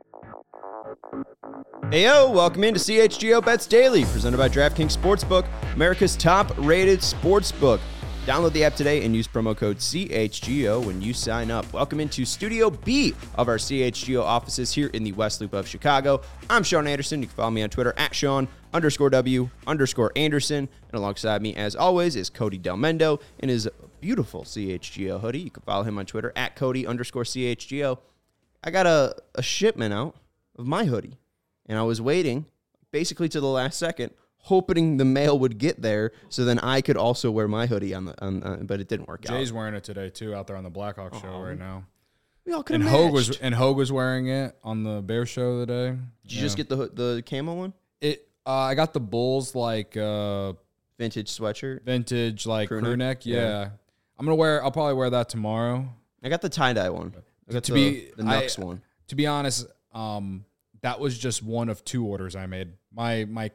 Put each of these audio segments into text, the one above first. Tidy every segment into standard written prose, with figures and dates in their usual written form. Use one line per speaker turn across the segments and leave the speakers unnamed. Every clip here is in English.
Heyo, welcome into CHGO Bets Daily, presented by DraftKings Sportsbook, America's top-rated sportsbook. Download the app today and use promo code CHGO when you sign up. Welcome into Studio B of our CHGO offices here in the West Loop of Chicago. I'm Sean Anderson. You can follow me on Twitter at Sean_W_Anderson. And alongside me, as always, is Cody Delmendo in his beautiful CHGO hoodie. You can follow him on Twitter at Cody_CHGO. I got a shipment out of my hoodie, and I was waiting basically to the last second, hoping the mail would get there so then I could also wear my hoodie but it didn't work out.
Jay's wearing it today too, out there on the Blackhawk show right now.
We all could
and
have
Hogue was wearing it on the Bear show today.
Did you just get the camo one?
I got the Bulls
vintage sweatshirt,
vintage like crew neck.
Yeah.
I'll probably wear that tomorrow.
I got the tie-dye one. I got the Nux one.
To be honest, that was just one of two orders I made. My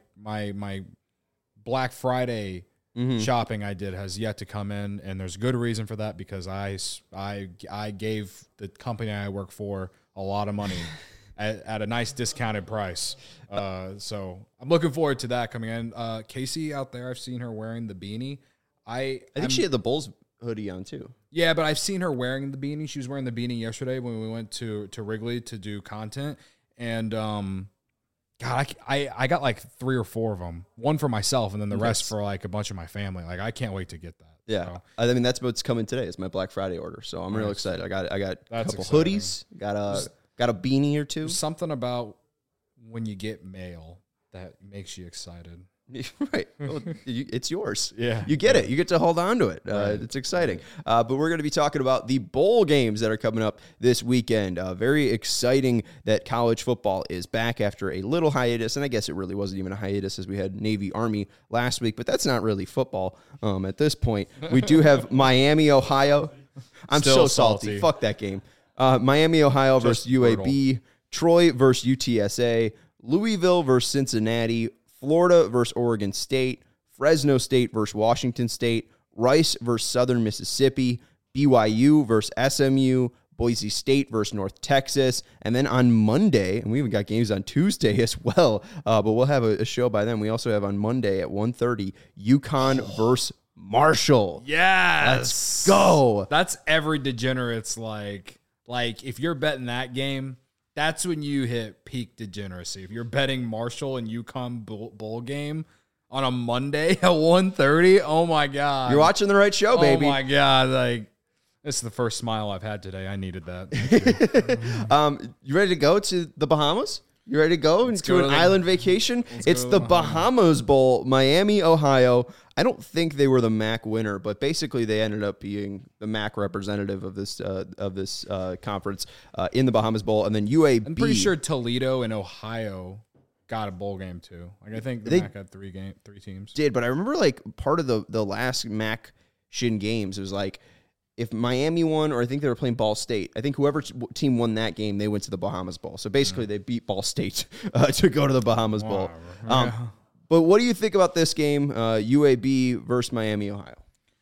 Black Friday shopping I did has yet to come in, and there's good reason for that because I gave the company I work for a lot of money at a nice discounted price. So I'm looking forward to that coming in. Casey out there, I've seen her wearing the beanie. I think
she had the Bulls hoodie on too.
Yeah, but I've seen her wearing the beanie. She was wearing the beanie yesterday when we went to Wrigley to do content. And, God, I got like 3 or 4 of them. One for myself and then the rest for like a bunch of my family. Like, I can't wait to get that.
Yeah.
So.
I mean, that's what's coming today. It's my Black Friday order. So I'm real excited. I got a couple
exciting.
hoodies, got a beanie or two.
There's something about when you get mail that makes you excited.
Right. Well, it's yours.
Yeah.
You get it. You get to hold on to it. Right. It's exciting. But we're going to be talking about the bowl games that are coming up this weekend. Very exciting that college football is back after a little hiatus. And I guess it really wasn't even a hiatus as we had Navy Army last week, but that's not really football at this point. We do have Miami, Ohio. I'm
Still
so salty. Fuck that game. Miami, Ohio versus UAB. Brutal. Troy versus UTSA. Louisville versus Cincinnati. Florida versus Oregon State, Fresno State versus Washington State, Rice versus Southern Mississippi, BYU versus SMU, Boise State versus North Texas, and then on Monday, and we even got games on Tuesday as well, but we'll have a show by then. We also have on Monday at 1:30, UConn versus Marshall.
Yes.
Let's go.
That's every degenerate's like if you're betting that game, that's when you hit peak degeneracy. If you're betting Marshall and UConn bowl game on a Monday at 1:30, oh my God.
You're watching the right show, baby.
Oh my God. Like, this is the first smile I've had today. I needed that.
You ready to go to the Bahamas? You ready to go into an island vacation? It's the Bahamas Bowl, Miami, Ohio. I don't think they were the MAC winner, but basically they ended up being the MAC representative of this conference in the Bahamas Bowl, and then UAB.
I'm pretty sure Toledo and Ohio got a bowl game too. Like I think the MAC had three teams.
Did, but I remember like part of the last MAC Shin games, it was like, if Miami won, or I think they were playing Ball State, I think whoever team won that game, they went to the Bahamas Bowl. So basically, they beat Ball State to go to the Bahamas Bowl. But what do you think about this game, UAB versus Miami, Ohio?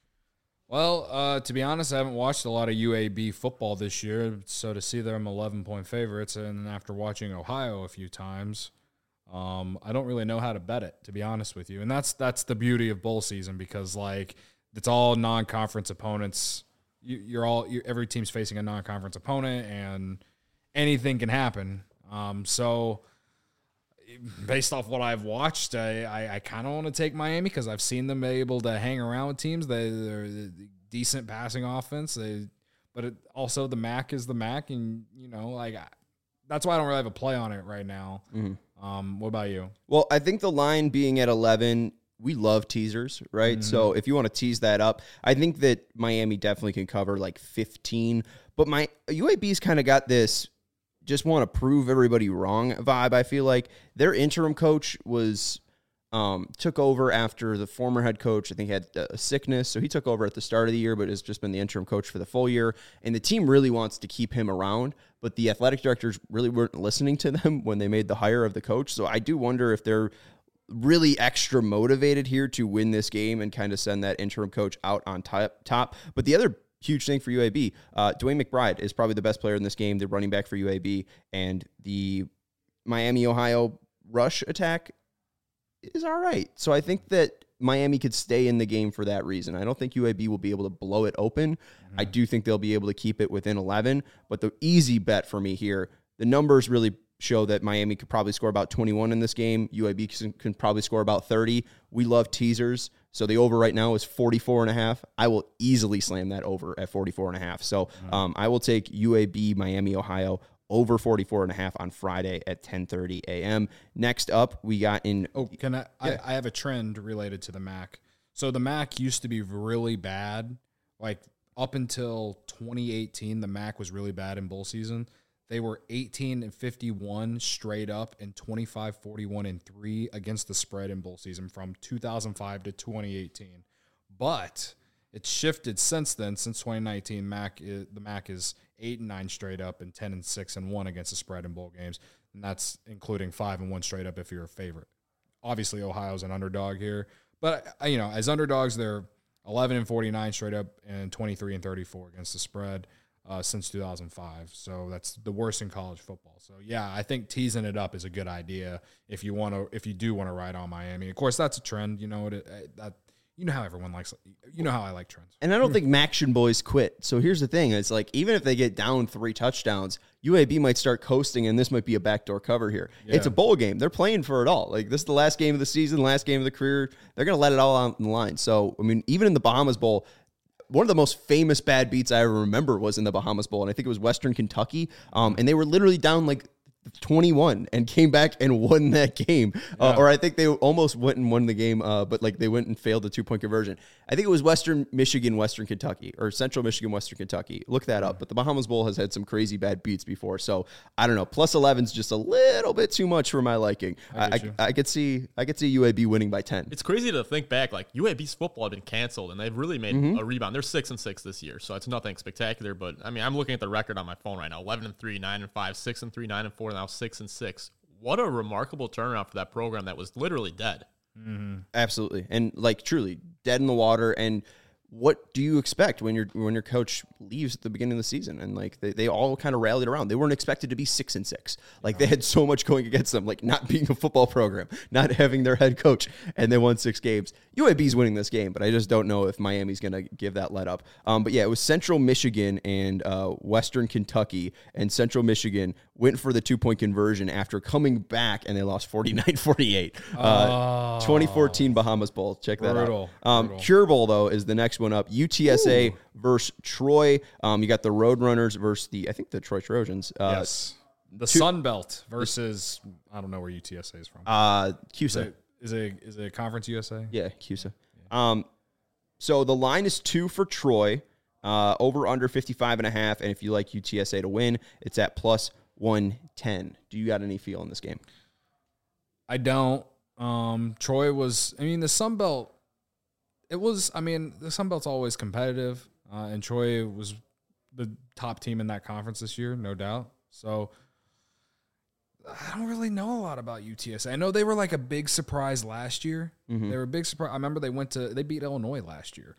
Well, to be honest, I haven't watched a lot of UAB football this year. So to see them 11-point favorites, and after watching Ohio a few times, I don't really know how to bet it, to be honest with you. And that's the beauty of bowl season, because like it's all non-conference opponents. Every team's facing a non-conference opponent, and anything can happen. So based off what I've watched, I kind of want to take Miami because I've seen them able to hang around with teams. They're decent passing offense. Also the MAC is the MAC, and that's why I don't really have a play on it right now. Mm-hmm. What about you?
Well, I think the line being at 11. We love teasers, right? Mm-hmm. So if you want to tease that up, I think that Miami definitely can cover like 15. But my UAB's kind of got this just want to prove everybody wrong vibe. I feel like their interim coach took over after the former head coach, I think, had a sickness. So he took over at the start of the year, but has just been the interim coach for the full year. And the team really wants to keep him around, but the athletic directors really weren't listening to them when they made the hire of the coach. So I do wonder if they're really extra motivated here to win this game and kind of send that interim coach out on top. But the other huge thing for UAB. Dwayne McBride is probably the best player in this game, the running back for UAB, and the Miami, Ohio rush attack is all right. So I think that Miami could stay in the game for that reason. I don't think UAB will be able to blow it open. I do think they'll be able to keep it within 11, but the easy bet for me here, the numbers really show that Miami could probably score about 21 in this game. UAB can probably score about 30. We love teasers. So the over right now is 44.5. I will easily slam that over at 44.5. So I will take UAB, Miami, Ohio over 44.5 on Friday at 10:30 a.m. Next up, we got in.
Oh, can I? Yeah. I have a trend related to the MAC. So the MAC used to be really bad. Like up until 2018, the MAC was really bad in bowl season. They were 18-51 straight up and 25-41-3 against the spread in bowl season from 2005 to 2018. But it's shifted since then. Since 2019, the MAC is 8-9 straight up and 10-6-1 against the spread in bowl games, and that's including 5-1 straight up if you're a favorite. Obviously, Ohio's an underdog here, but as underdogs, they're 11-49 straight up and 23-34 against the spread. Since 2005. So that's the worst in college football. So yeah, I think teasing it up is a good idea if you do want to ride on Miami. Of course, that's a trend. You know how everyone likes. You know how I like trends.
And I don't think Maction boys quit. So here's the thing: it's like even if they get down 3 touchdowns, UAB might start coasting, and this might be a backdoor cover here. Yeah. It's a bowl game. They're playing for it all. Like this is the last game of the season, last game of the career. They're going to let it all out on the line. So I mean, even in the Bahamas Bowl. One of the most famous bad beats I ever remember was in the Bahamas Bowl, and I think it was Western Kentucky, and they were literally down like 21 and came back and won that game.
Yeah.
Or I think they almost went and won the game, but like they went and failed the 2-point conversion. I think it was Western Michigan, Western Kentucky, or Central Michigan, Western Kentucky. Look that up. But the Bahamas Bowl has had some crazy bad beats before. So I don't know. Plus 11 is just a little bit too much for my liking. I could see UAB winning by 10.
It's crazy to think back. Like UAB's football had been canceled, and they've really made a rebound. They're 6-6 this year, so it's nothing spectacular. But I mean, I'm looking at the record on my phone right now: 11-3, 9-5, 6-3, 9-4, now 6-6. What a remarkable turnaround for that program that was literally dead.
Mm-hmm. Absolutely, and like truly dead in the water. And what do you expect when your coach leaves at the beginning of the season? And like they all kind of rallied around. They weren't expected to be 6-6. Like they had so much going against them, like not being a football program, not having their head coach, and they won 6 games. UAB's winning this game, but I just don't know if Miami's going to give that let up. But yeah, it was Central Michigan and Western Kentucky, and Central Michigan went for the 2-point conversion after coming back, and they lost 49-48. 2014 Bahamas Bowl. Check that out. Cure Bowl, though, is the next one up. UTSA versus Troy. You got the Roadrunners versus I think the Troy Trojans.
Yes. The Sun Belt versus, I don't know where UTSA is from.
CUSA.
Is it Conference USA?
Yeah, CUSA. So the line is 2 for Troy, over under 55.5. And if you like UTSA to win, it's at plus 110. Do you got any feel in this game?
I don't. Troy was, the Sun Belt, the Sun Belt's always competitive, and Troy was the top team in that conference this year, no doubt. So I don't really know a lot about UTSA. I know they were like a big surprise last year. Mm-hmm. They were a big surprise. I remember they beat Illinois last year.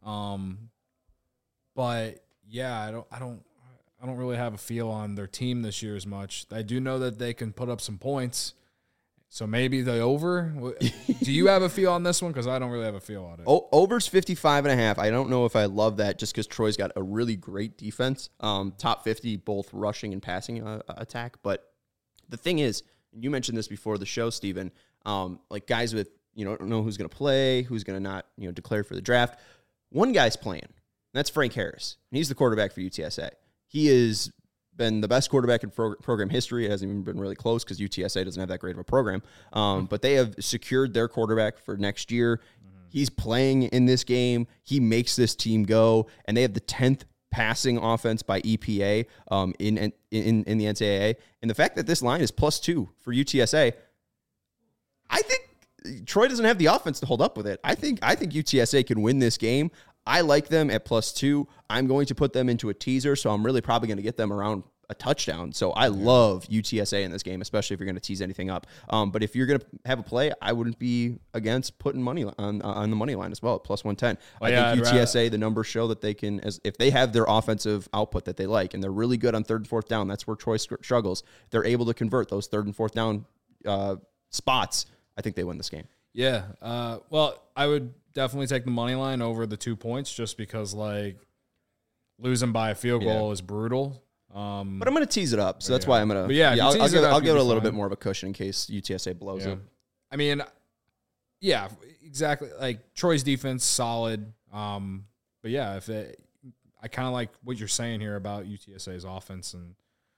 But yeah, I don't really have a feel on their team this year as much. I do know that they can put up some points. So maybe the over. Do you have a feel on this one? Because I don't really have a feel on it.
Over's 55.5. I don't know if I love that just because Troy's got a really great defense. Top 50, both rushing and passing attack. But the thing is, and you mentioned this before the show, Steven, like guys with, don't know who's going to play, who's going to not, declare for the draft. One guy's playing. And that's Frank Harris. And he's the quarterback for UTSA. He is been the best quarterback in program history. It hasn't even been really close because UTSA doesn't have that great of a program. But they have secured their quarterback for next year. Mm-hmm. He's playing in this game. He makes this team go, and they have the 10th passing offense by EPA in the NCAA. And the fact that this line is +2 for UTSA, I think Troy doesn't have the offense to hold up with it. I think UTSA can win this game. I like them at +2. I'm going to put them into a teaser, so I'm really probably going to get them around a touchdown. So I love UTSA in this game, especially if you're going to tease anything up. But if you're going to have a play, I wouldn't be against putting money on the money line as well at plus 110. I think UTSA, the numbers show that they can, if they have their offensive output that they like, and they're really good on third and fourth down, that's where Troy struggles. They're able to convert those third and fourth down spots. I think they win this game.
Yeah. Well, I would definitely take the money line over the 2 points just because, like, losing by a field goal is brutal.
But I'm going to tease it up, so that's why I'm going to.
Yeah,
I'll give it a little bit more of a cushion in case UTSA blows it.
I mean, yeah, exactly. Like Troy's defense, solid. But yeah, I kind of like what you're saying here about UTSA's offense, and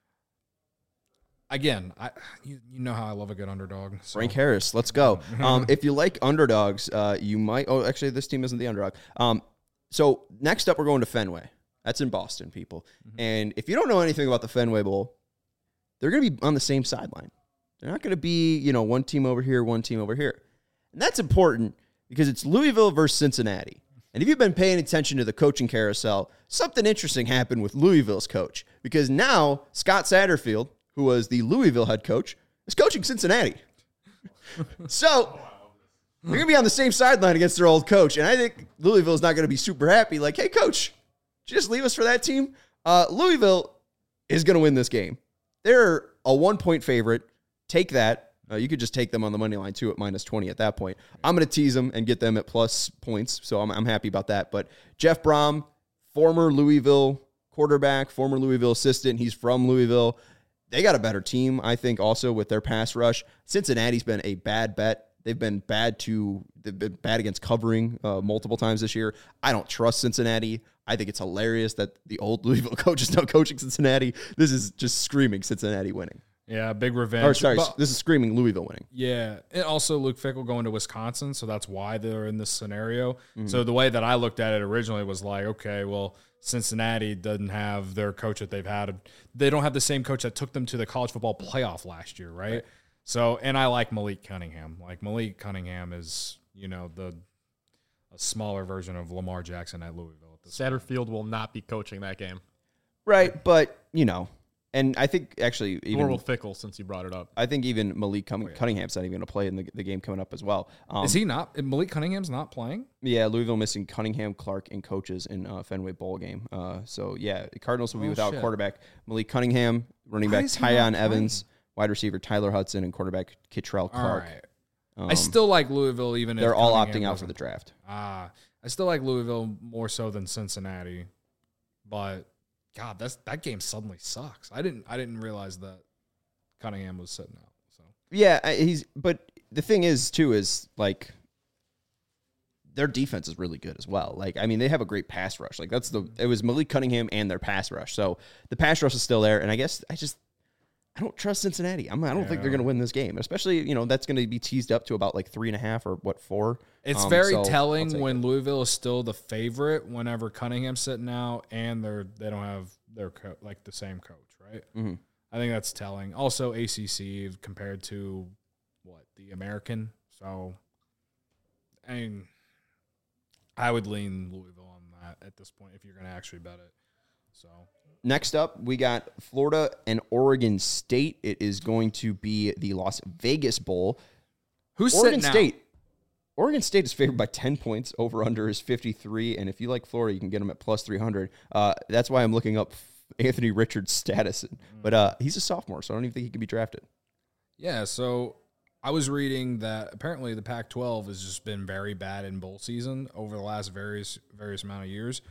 again, you know how I love a good underdog. So.
Frank Harris, let's go. If you like underdogs, you might. Oh, actually, this team isn't the underdog. So next up, we're going to Fenway. That's in Boston, people. Mm-hmm. And if you don't know anything about the Fenway Bowl, they're going to be on the same sideline. They're not going to be, one team over here, one team over here. And that's important because it's Louisville versus Cincinnati. And if you've been paying attention to the coaching carousel, something interesting happened with Louisville's coach. Because now Scott Satterfield, who was the Louisville head coach, is coaching Cincinnati. So they're going to be on the same sideline against their old coach. And I think Louisville's not going to be super happy. Like, hey, coach, did you just leave us for that team? Louisville is going to win this game. They're a 1-point favorite. Take that. You could just take them on the money line, too, at minus 20 at that point. I'm going to tease them and get them at plus points, so I'm happy about that. But Jeff Brom, former Louisville quarterback, former Louisville assistant. He's from Louisville. They got a better team, I think, also with their pass rush. Cincinnati's been a bad bet. They've been bad against covering multiple times this year. I don't trust Cincinnati. I think it's hilarious that the old Louisville coach is now coaching Cincinnati. This is just screaming Cincinnati winning.
Yeah, big revenge.
Or sorry, this is screaming Louisville winning.
Yeah, and also Luke Fickell going to Wisconsin, so that's why they're in this scenario. Mm-hmm. So the way that I looked at it originally was like, okay, well, Cincinnati doesn't have their coach that they've had. They don't have the same coach that took them to the college football playoff last year, right? So, and I like Malik Cunningham. Like, Malik Cunningham is, a smaller version of Lamar Jackson at Louisville.
Satterfield will not be coaching that game.
Right, but, and I think actually even
Nor will Fickell, since you brought it up.
I think even Malik Cunningham's not even going to play in the game coming up as well.
Is he not? Malik Cunningham's not playing?
Yeah, Louisville missing Cunningham, Clark, and coaches in Fenway Bowl game. So, yeah, the Cardinals will be without quarterback Malik Cunningham, running back Tyon Evans, wide receiver Tyler Hudson, and quarterback Kittrell Clark.
All right. I still like Louisville, even if
they're all opting out for the draft.
I still like Louisville more so than Cincinnati, but God, that game suddenly sucks. I didn't realize that Cunningham was sitting out. So
yeah, but the thing is too is like their defense is really good as well. Like, I mean, they have a great pass rush. Like it was Malik Cunningham and their pass rush. So the pass rush is still there, and I guess I don't trust Cincinnati. I don't think they're going to win this game, especially, that's going to be teased up to about like 3.5 or 4.
It's very telling when Louisville is still the favorite whenever Cunningham's sitting out and they don't have their the same coach, right?
Mm-hmm.
I think that's telling. Also, ACC compared to the American. So, I mean, I would lean Louisville on that at this point if you're going to actually bet it. So.
Next up, we got Florida and Oregon State. It is going to be the Las Vegas Bowl.
Who's
Oregon
sitting
State? Oregon State is favored by 10 points. Over-under is 53. And if you like Florida, you can get them at plus 300. That's why I'm looking up Anthony Richards' status. But he's a sophomore, so I don't even think he can be drafted.
Yeah, so I was reading that apparently the Pac-12 has just been very bad in bowl season over the last various amount of years.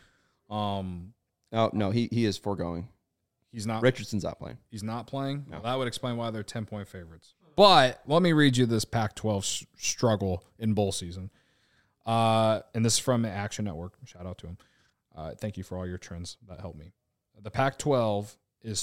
Oh, no, he is foregoing.
He's not.
Richardson's not playing.
He's not playing?
No.
Well, that would explain why they're 10-point favorites. But let me read you this Pac-12 struggle in bowl season. And this is from Action Network. Shout out to him. Thank you for all your trends. That helped me. The Pac-12 is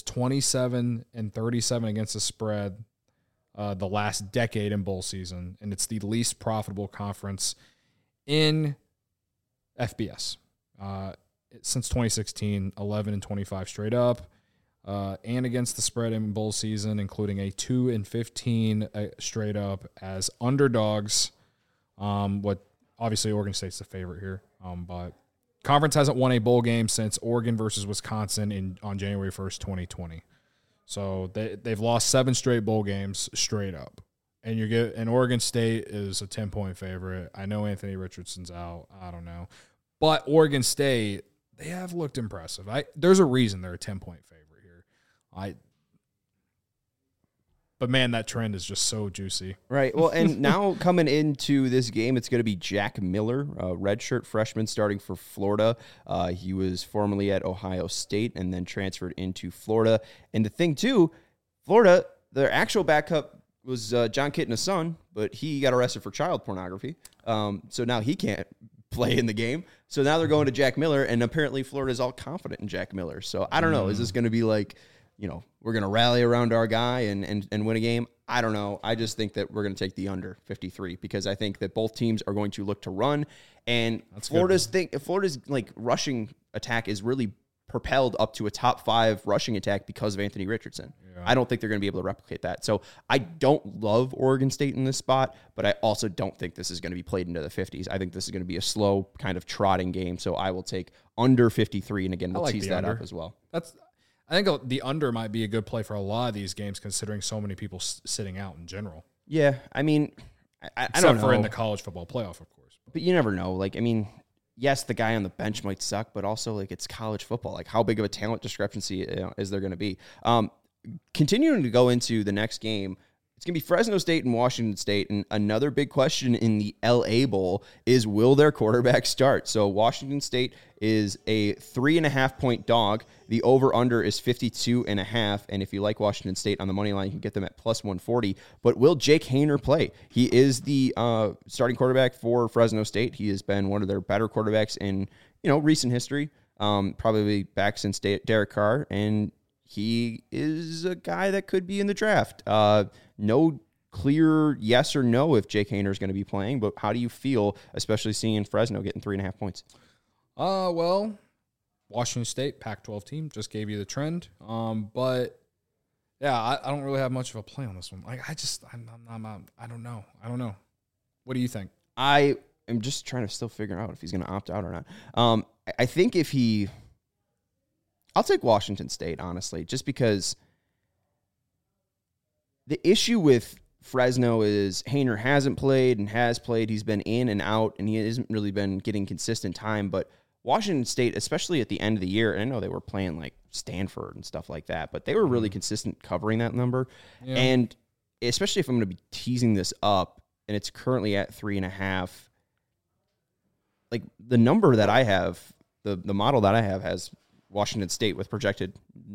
27-37 against the spread the last decade in bowl season, and it's the least profitable conference in FBS. Since 2016, 11-25 straight up, and against the spread in bowl season, including a 2-15 straight up as underdogs. What obviously Oregon State's the favorite here, but conference hasn't won a bowl game since Oregon versus Wisconsin on January 1st, 2020. So they've lost 7 straight bowl games straight up. And Oregon State is a 10-point favorite. I know Anthony Richardson's out. I don't know. But Oregon State, they have looked impressive. There's a reason they're a 10-point favorite here. But man, that trend is just so juicy.
Right. Well, and now coming into this game, it's going to be Jack Miller, a redshirt freshman starting for Florida. He was formerly at Ohio State and then transferred into Florida. And the thing, too, Florida, their actual backup was John Kitna's son, but he got arrested for child pornography. So now he can't play in the game. So now they're going to Jack Miller, and apparently Florida's all confident in Jack Miller. So I don't know. Is this going to be like, we're going to rally around our guy and win a game? I don't know. I just think that we're going to take the under 53 because I think that both teams are going to look to run. And Florida's like rushing attack is really propelled up to a top 5 rushing attack because of Anthony Richardson. Yeah. I don't think they're going to be able to replicate that. So I don't love Oregon State in this spot, but I also don't think this is going to be played into the 50s. I think this is going to be a slow kind of trotting game. So I will take under 53. And again, we'll tease that up as well.
I think the under might be a good play for a lot of these games, considering so many people sitting out in general.
Yeah, I mean, I don't know.
Except for in the college football playoff, of course.
But you never know. Like, I mean, yes, the guy on the bench might suck, but also, like, it's college football. Like, how big of a talent discrepancy is there going to be? Continuing to go into the next game, it's going to be Fresno State and Washington State. And another big question in the LA Bowl is, will their quarterback start? So Washington State is a 3.5-point dog. The over-under is 52.5. And if you like Washington State on the money line, you can get them at plus 140. But will Jake Haener play? He is the starting quarterback for Fresno State. He has been one of their better quarterbacks in recent history, probably back since Derek Carr. And he is a guy that could be in the draft. No clear yes or no if Jake Haener is going to be playing, but how do you feel, especially seeing Fresno getting 3.5 points?
Well, Washington State, Pac-12 team, just gave you the trend. But yeah, I don't really have much of a play on this one. Like, I don't know. What do you think?
I am just trying to still figure out if he's going to opt out or not. I think I'll take Washington State, honestly, just because the issue with Fresno is Haener hasn't played and has played. He's been in and out, and he hasn't really been getting consistent time. But Washington State, especially at the end of the year, and I know they were playing like Stanford and stuff like that, but they were really consistent covering that number. Yeah. And especially if I'm going to be teasing this up, and it's currently at 3.5, like the number that I have, the model that I have has Washington State with projected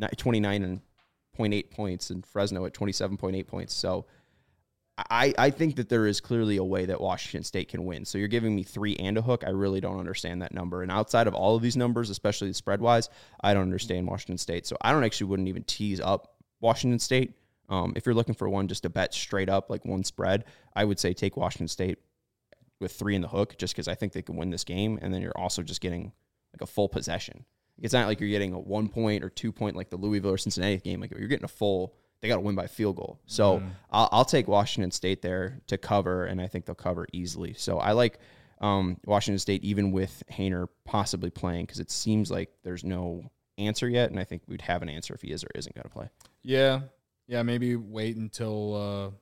29.8 points and Fresno at 27.8 points. So I think that there is clearly a way that Washington State can win. So you're giving me 3 and a hook. I really don't understand that number. And outside of all of these numbers, especially the spread-wise, I don't understand Washington State. So I wouldn't even tease up Washington State. If you're looking for one just to bet straight up, like one spread, I would say take Washington State with 3 in the hook just because I think they can win this game. And then you're also just getting like a full possession. It's not like you're getting a 1 point or 2 point like the Louisville or Cincinnati game. Like you're getting a full, they got to win by field goal. So I'll take Washington State there to cover, and I think they'll cover easily. So I like Washington State even with Haener possibly playing because it seems like there's no answer yet, and I think we'd have an answer if he is or isn't going to play.
Yeah, maybe wait until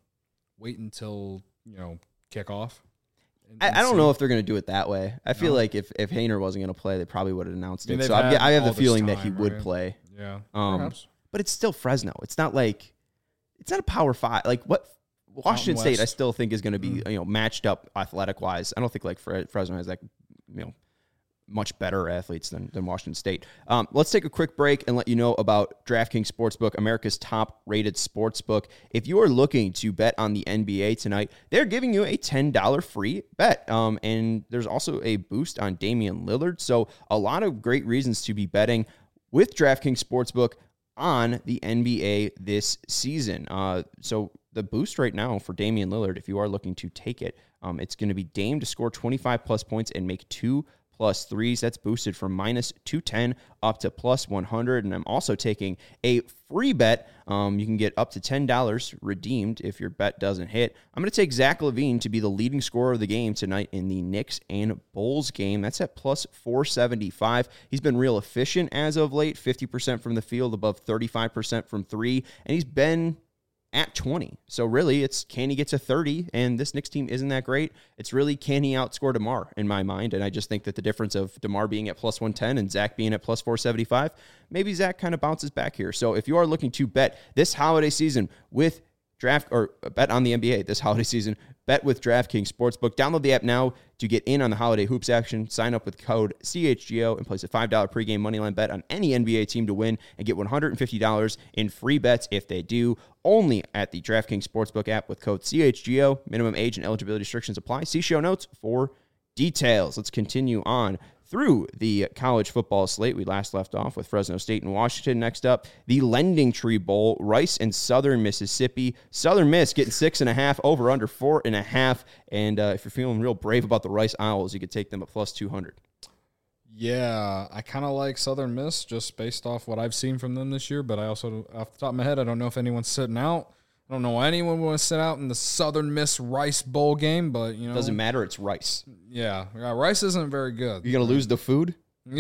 kickoff.
I don't know if they're going to do it that way. I feel like if Haener wasn't going to play, they probably would have announced it. So I have the feeling that he would play.
Yeah, perhaps.
But it's still Fresno. It's not a Power 5. Like what Washington State, I still think is going to be matched up athletic wise. I don't think like Fresno has much better athletes than Washington State. Let's take a quick break and let you know about DraftKings Sportsbook, America's top-rated sportsbook. If you are looking to bet on the NBA tonight, they're giving you a $10 free bet. And there's also a boost on Damian Lillard. So a lot of great reasons to be betting with DraftKings Sportsbook on the NBA this season. So the boost right now for Damian Lillard, if you are looking to take it, it's going to be Dame to score 25-plus points and make 2 plus 3s. That's boosted from minus 210 up to plus 100. And I'm also taking a free bet. You can get up to $10 redeemed if your bet doesn't hit. I'm going to take Zach LaVine to be the leading scorer of the game tonight in the Knicks and Bulls game. That's at plus 475. He's been real efficient as of late, 50% from the field, above 35% from three, and he's been at 20. So really, it's can he get to 30? And this Knicks team isn't that great. It's really, can he outscore DeMar in my mind? And I just think that the difference of DeMar being at plus 110 and Zach being at plus 475, maybe Zach kind of bounces back here. So if you are looking to bet this holiday season with draft or bet on the NBA this holiday season, bet with DraftKings Sportsbook. Download the app now to get in on the holiday hoops action. Sign up with code CHGO and place a $5 pregame moneyline bet on any NBA team to win and get $150 in free bets if they do. Only at the DraftKings Sportsbook app with code CHGO. Minimum age and eligibility restrictions apply. See show notes for details. Let's continue on through the college football slate. We last left off with Fresno State and Washington. Next up, the Lending Tree Bowl, Rice and Southern Mississippi. Southern Miss getting 6.5, over under 4.5. And if you're feeling real brave about the Rice Owls, you could take them at plus 200.
Yeah, I kind of like Southern Miss just based off what I've seen from them this year, but I also, off the top of my head, I don't know if anyone's sitting out. I don't know anyone want to sit out in the Southern Miss Rice Bowl game, but, you know.
Doesn't matter. It's Rice.
Yeah, Rice isn't very good.
You're going to lose the food?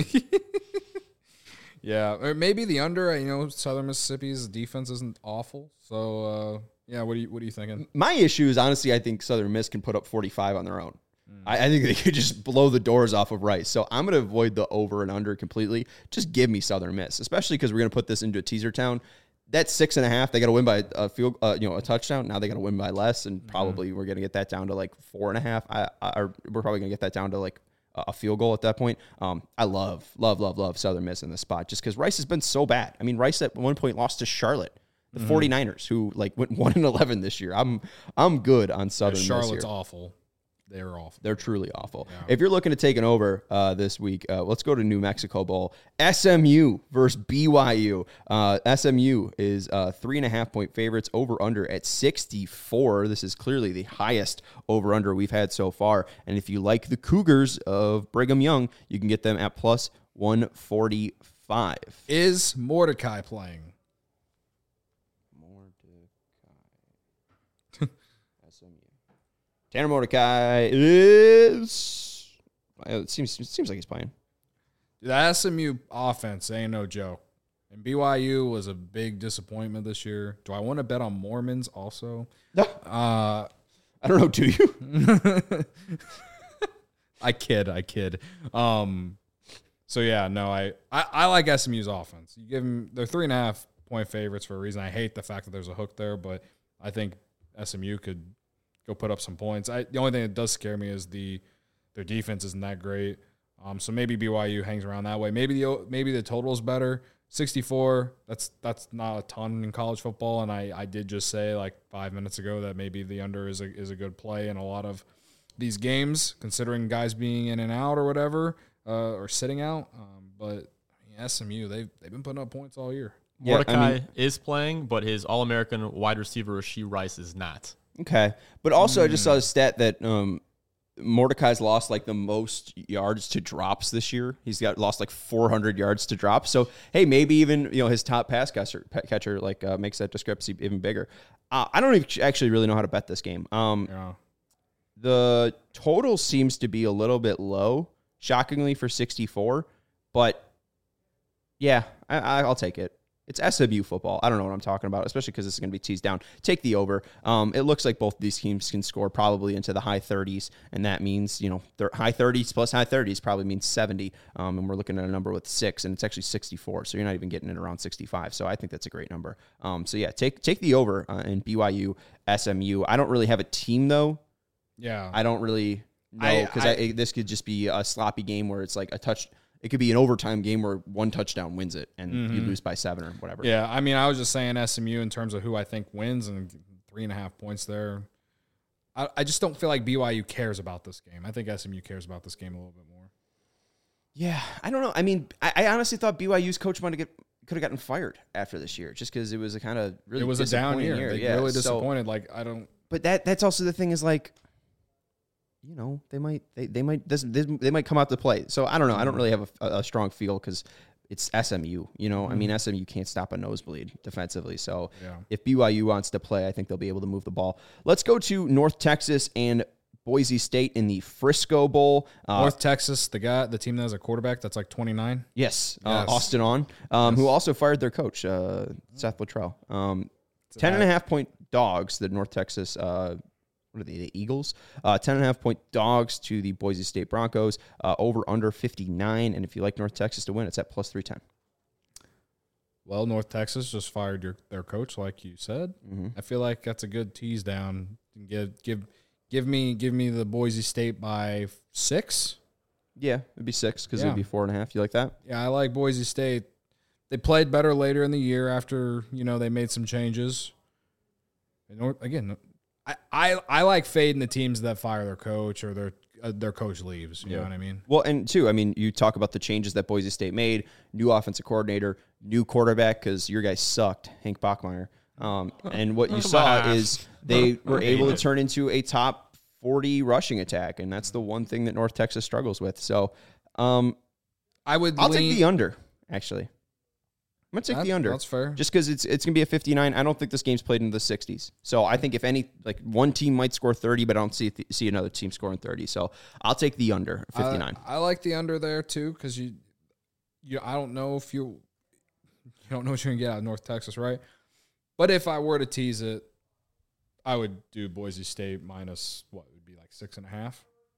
Yeah, or maybe the under. You know, Southern Mississippi's defense isn't awful. So, yeah, what are you thinking?
My issue is, honestly, I think Southern Miss can put up 45 on their own. I think they could just blow the doors off of Rice. So I'm going to avoid the over and under completely. Just give me Southern Miss, especially because we're going to put this into a teaser town. That's 6.5. They got to win by a field, a touchdown. Now they got to win by less, and probably we're going to get that down to like 4.5. We're probably going to get that down to like a field goal at that point. I love Southern Miss in this spot just because Rice has been so bad. I mean, Rice at one point lost to Charlotte, the 49ers, who like went 1-11 this year. I'm good on Southern Miss here.
Charlotte's awful. They're awful.
They're truly awful.
Yeah.
If you're looking to take an over this week, let's go to New Mexico Bowl. SMU versus BYU. SMU is 3.5-point favorites, over under at 64. This is clearly the highest over under we've had so far. And if you like the Cougars of Brigham Young, you can get them at plus 145.
Is Mordecai playing?
Tanner Mordecai is. It seems like he's playing.
The SMU offense ain't no joke, and BYU was a big disappointment this year. Do I want to bet on Mormons also?
No. I don't know. Do you?
I kid. So yeah, no, I like SMU's offense. You give them, they're 3.5-point favorites for a reason. I hate the fact that there's a hook there, but I think SMU could go put up some points. The only thing that does scare me is their defense isn't that great. So maybe BYU hangs around that way. Maybe the total is better. 64. That's not a ton in college football. And I did just say like 5 minutes ago that maybe the under is a good play in a lot of these games, considering guys being in and out or whatever, or sitting out. But SMU, they've been putting up points all year.
Mordecai is playing, but his All-American wide receiver Rashee Rice is not.
Okay. But also I just saw a stat that Mordecai's lost like the most yards to drops this year. He's lost like 400 yards to drops. So, hey, maybe even his top pass catcher like makes that discrepancy even bigger. I don't actually really know how to bet this game.
Yeah.
The total seems to be a little bit low, shockingly, for 64. But, yeah, I'll take it. It's SMU football. I don't know what I'm talking about, especially because this is going to be teased down. Take the over. It looks like both these teams can score probably into the high 30s, and that means, high 30s plus high 30s probably means 70, and we're looking at a number with 6, and it's actually 64, so you're not even getting it around 65, so I think that's a great number. So, yeah, take the over in BYU, SMU. I don't really have a team, though.
Yeah.
I don't really know, because this could just be a sloppy game where it's like a touch. It could be an overtime game where one touchdown wins it and you lose by 7 or whatever.
Yeah, I mean, I was just saying SMU in terms of who I think wins, and 3.5 points there. I just don't feel like BYU cares about this game. I think SMU cares about this game a little bit more.
Yeah, I don't know. I mean, I honestly thought BYU's coach could have gotten fired after this year just because it was a kind of really
it was a down year. They really disappointed.
But that's also the thing is like, they might come out to play. So I don't know. I don't really have a strong feel because it's SMU. I mean, SMU can't stop a nosebleed defensively. So if BYU wants to play, I think they'll be able to move the ball. Let's go to North Texas and Boise State in the Frisco Bowl.
North Texas, the team that has a quarterback that's like 29.
Yes. Austin On, who also fired their coach, Seth Luttrell. 10.5-point dogs, the North Texas, what are they, the Eagles? 10.5-point dogs to the Boise State Broncos, over under 59. And if you like North Texas to win, it's at plus 310.
Well, North Texas just fired their coach, like you said. Mm-hmm. I feel like that's a good tease down. Give me the Boise State by 6.
Yeah, it'd be 6 because it'd be 4.5. You like that?
Yeah, I like Boise State. They played better later in the year after they made some changes. And again, I like fading the teams that fire their coach or their coach leaves. You know what I mean?
Well, and too, I mean, you talk about the changes that Boise State made: new offensive coordinator, new quarterback because your guy sucked, Hank Bachmeier. And what you saw is they were able to turn into a top 40 rushing attack, and that's the one thing that North Texas struggles with. So, I'll take the under. Actually, I'm gonna take the under.
That's fair.
Just because it's gonna be a 59. I don't think this game's played into the 60s. So I think if any, like one team might score 30, but I don't see another team scoring 30. So I'll take the under 59.
I like the under there too because I don't know if you don't know what you're gonna get out of North Texas, right? But if I were to tease it, I would do Boise State minus what would be like 6.5,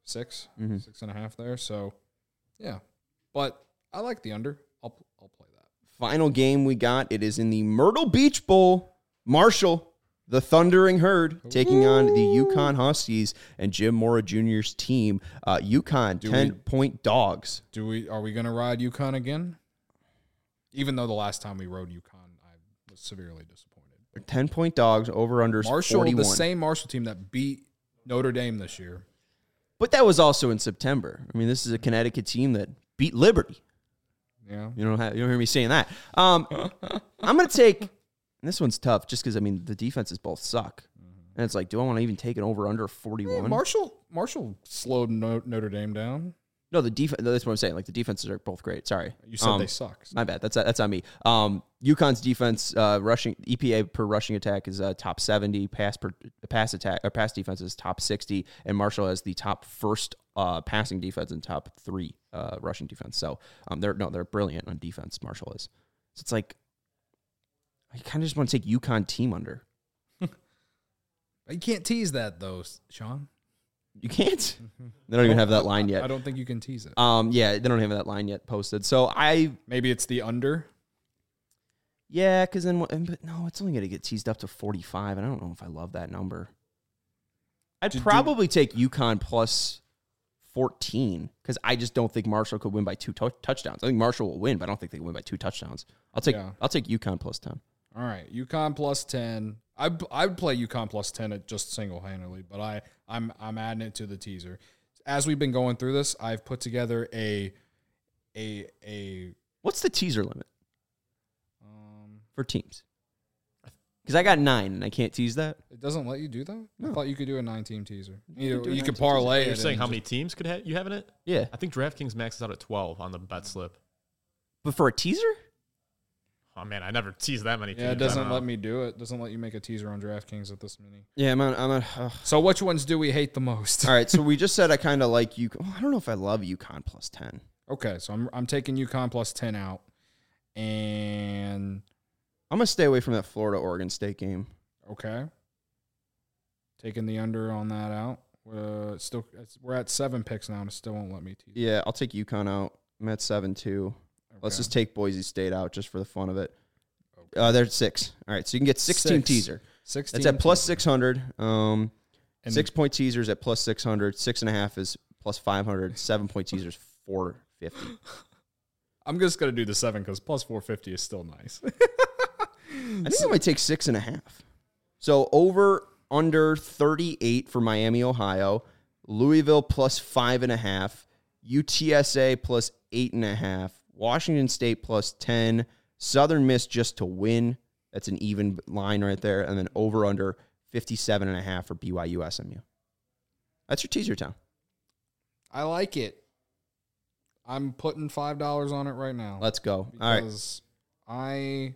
6.5 there. So, yeah, but I like the under. I'll play that.
Final game we got. It is in the Myrtle Beach Bowl. Marshall, the Thundering Herd, taking on the UConn Huskies and Jim Mora Jr.'s team. UConn 10-point dogs.
Are we going to ride UConn again? Even though the last time we rode UConn, I was severely disappointed.
10-point dogs, over-unders 41.
The same Marshall team that beat Notre Dame this year.
But that was also in September. I mean, this is a Connecticut team that beat Liberty.
Yeah.
You don't hear me saying that. I'm going to take, and this one's tough just because, I mean, the defenses both suck. Mm-hmm. And it's like, do I want to even take an over-under 41?
Yeah, Marshall slowed Notre Dame down.
No, the defense. That's what I'm saying. Like the defenses are both great. Sorry,
you said they suck.
My bad. That's on me. UConn's defense, rushing EPA per rushing attack is top 70. Pass defense is top 60, and Marshall has the top first passing defense and top 3 rushing defense. So they're brilliant on defense. Marshall is. So it's like I kind of just want to take UConn team under.
You can't tease that though, Sean.
You can't? They don't even have that line yet.
I don't think you can tease it.
Yeah, they don't have that line yet posted. So
maybe it's the under.
Yeah, because then but no, it's only going to get teased up to 45, and I don't know if I love that number. I'd probably take UConn plus 14 because I just don't think Marshall could win by 2 touchdowns. I think Marshall will win, but I don't think they can win by 2 touchdowns. I'll take UConn plus 10.
All right, UConn plus 10. I would play UConn plus 10 at just single-handedly, but I'm adding it to the teaser. As we've been going through this, I've put together a
What's the teaser limit for teams? Because I got 9 and I can't tease that.
It doesn't let you do that?
No.
I thought you could do a 9-team teaser. You could parlay it.
You're saying how many teams you have in it?
Yeah.
I think DraftKings maxes out at 12 on the bet slip.
But for a teaser?
Oh, man, I never teased that many teams.
Yeah, it doesn't let me do it. It doesn't let you make a teaser on DraftKings at this many.
Yeah, man.
So which ones do we hate the most?
All right, so we just said I kind of like UConn. I don't know if I love UConn plus 10.
Okay, so I'm taking UConn plus 10 out. And
I'm going to stay away from that Florida-Oregon State game.
Okay. Taking the under on that out. We're at 7 picks now, and it still won't let me tease.
Yeah, I'll take UConn out. I'm at 7 too. Okay. Let's just take Boise State out just for the fun of it. Okay. They're at 6. All right, so you can get 16 teaser. 16. That's at plus 600. 6-point teasers at plus 600. 6.5 is plus 500. 7-point teasers 450.
I'm just gonna do the 7 because plus 450 is still nice.
I think I might take 6.5. So over under 38 for Miami, Ohio. Louisville plus 5.5. UTSA plus 8.5. Washington State plus 10. Southern Miss just to win. That's an even line right there. And then over under 57.5 for BYU SMU. That's your teaser town.
I like it. I'm putting $5 on it right now.
Let's go. All right.
Because I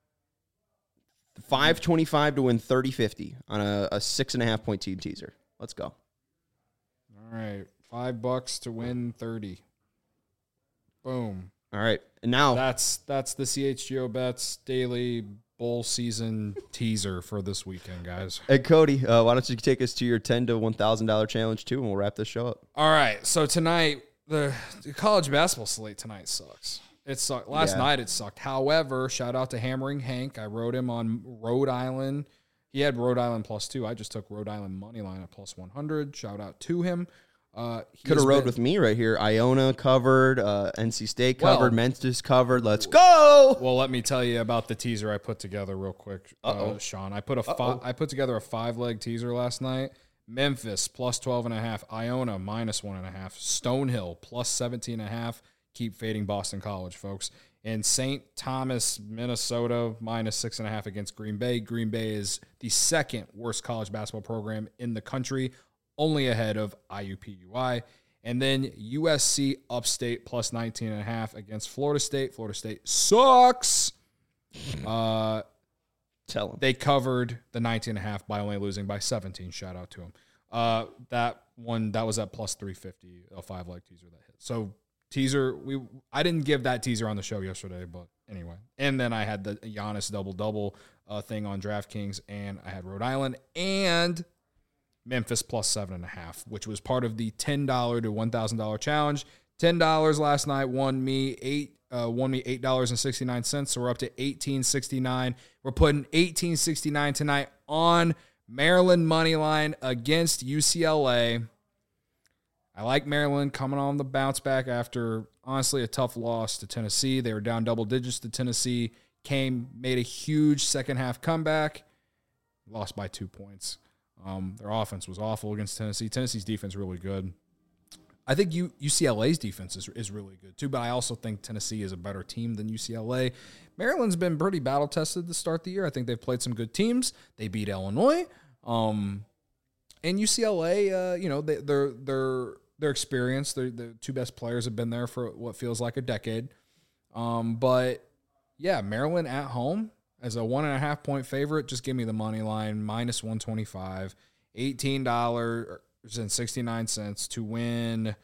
525 to win 30-50 on a 6.5 point team teaser. Let's go.
All right. $5 to win 30. Boom.
All right. And now
That's the CHGO Bets daily bowl season teaser for this weekend, guys.
Hey, Cody, why don't you take us to your $10 to $1,000 challenge too, and we'll wrap this show up.
All right. So tonight, the college basketball slate tonight sucks. It sucked. Last night it sucked. However, shout out to Hammering Hank. I wrote him on Rhode Island. He had Rhode Island +2. I just took Rhode Island money line at +100. Shout out to him.
Could have rode with me right here. Iona covered, NC State covered, Memphis covered. Let's go.
Well, let me tell you about the teaser I put together real quick, Sean. I put together a 5-leg teaser last night. Memphis +12.5, Iona -1.5, Stonehill +17.5. Keep fading Boston College, folks. And St. Thomas, Minnesota -6.5 against Green Bay. Green Bay is the second worst college basketball program in the country, only ahead of IUPUI. And then USC Upstate +19.5 against Florida State. Florida State sucks.
Tell them.
They covered the 19.5 by only losing by 17. Shout out to them. That was at +350, a 5-leg teaser that hit. So teaser, I didn't give that teaser on the show yesterday, but anyway. And then I had the Giannis double-double thing on DraftKings, and I had Rhode Island and Memphis +7.5, which was part of the $10 to $1,000 challenge. $10 last night won me $8.69, so we're up to $18.69. We're putting $18.69 tonight on Maryland money line against UCLA. I like Maryland coming on the bounce back after, honestly, a tough loss to Tennessee. They were down double digits to Tennessee, made a huge second-half comeback, lost by 2 points. Their offense was awful against Tennessee. Tennessee's defense really good. I think UCLA's defense is really good too, but I also think Tennessee is a better team than UCLA. Maryland's been pretty battle-tested to start the year. I think they've played some good teams. They beat Illinois. And UCLA, they're experienced. The two best players have been there for what feels like a decade. But, yeah, Maryland at home as a 1.5 point favorite. Just give me the money line, -125, $18.69 to win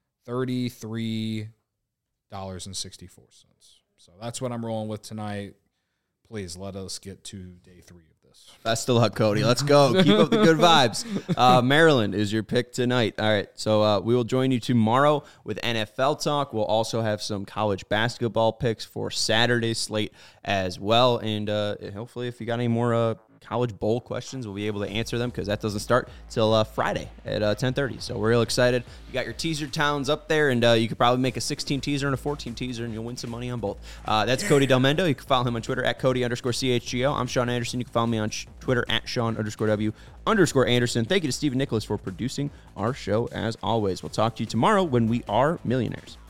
$33.64. So that's what I'm rolling with tonight. Please let us get to day 3 of this.
Best of luck, Cody. Let's go. Keep up the good vibes. Maryland is your pick tonight. All right, so we will join you tomorrow with NFL talk. We'll also have some college basketball picks for Saturday's slate as well. And hopefully if you got any more college bowl questions, we'll be able to answer them because that doesn't start till Friday at 10:30. So we're real excited. You got your teaser towns up there, and you could probably make a 16 teaser and a 14 teaser, and you'll win some money on both. That's Cody Del Mendo. You can follow him on Twitter at Cody_CHGO. I'm Sean Anderson. You can follow me on Twitter at Sean_W_Anderson. Thank you to Stephen Nicholas for producing our show as always. We'll talk to you tomorrow when we are millionaires.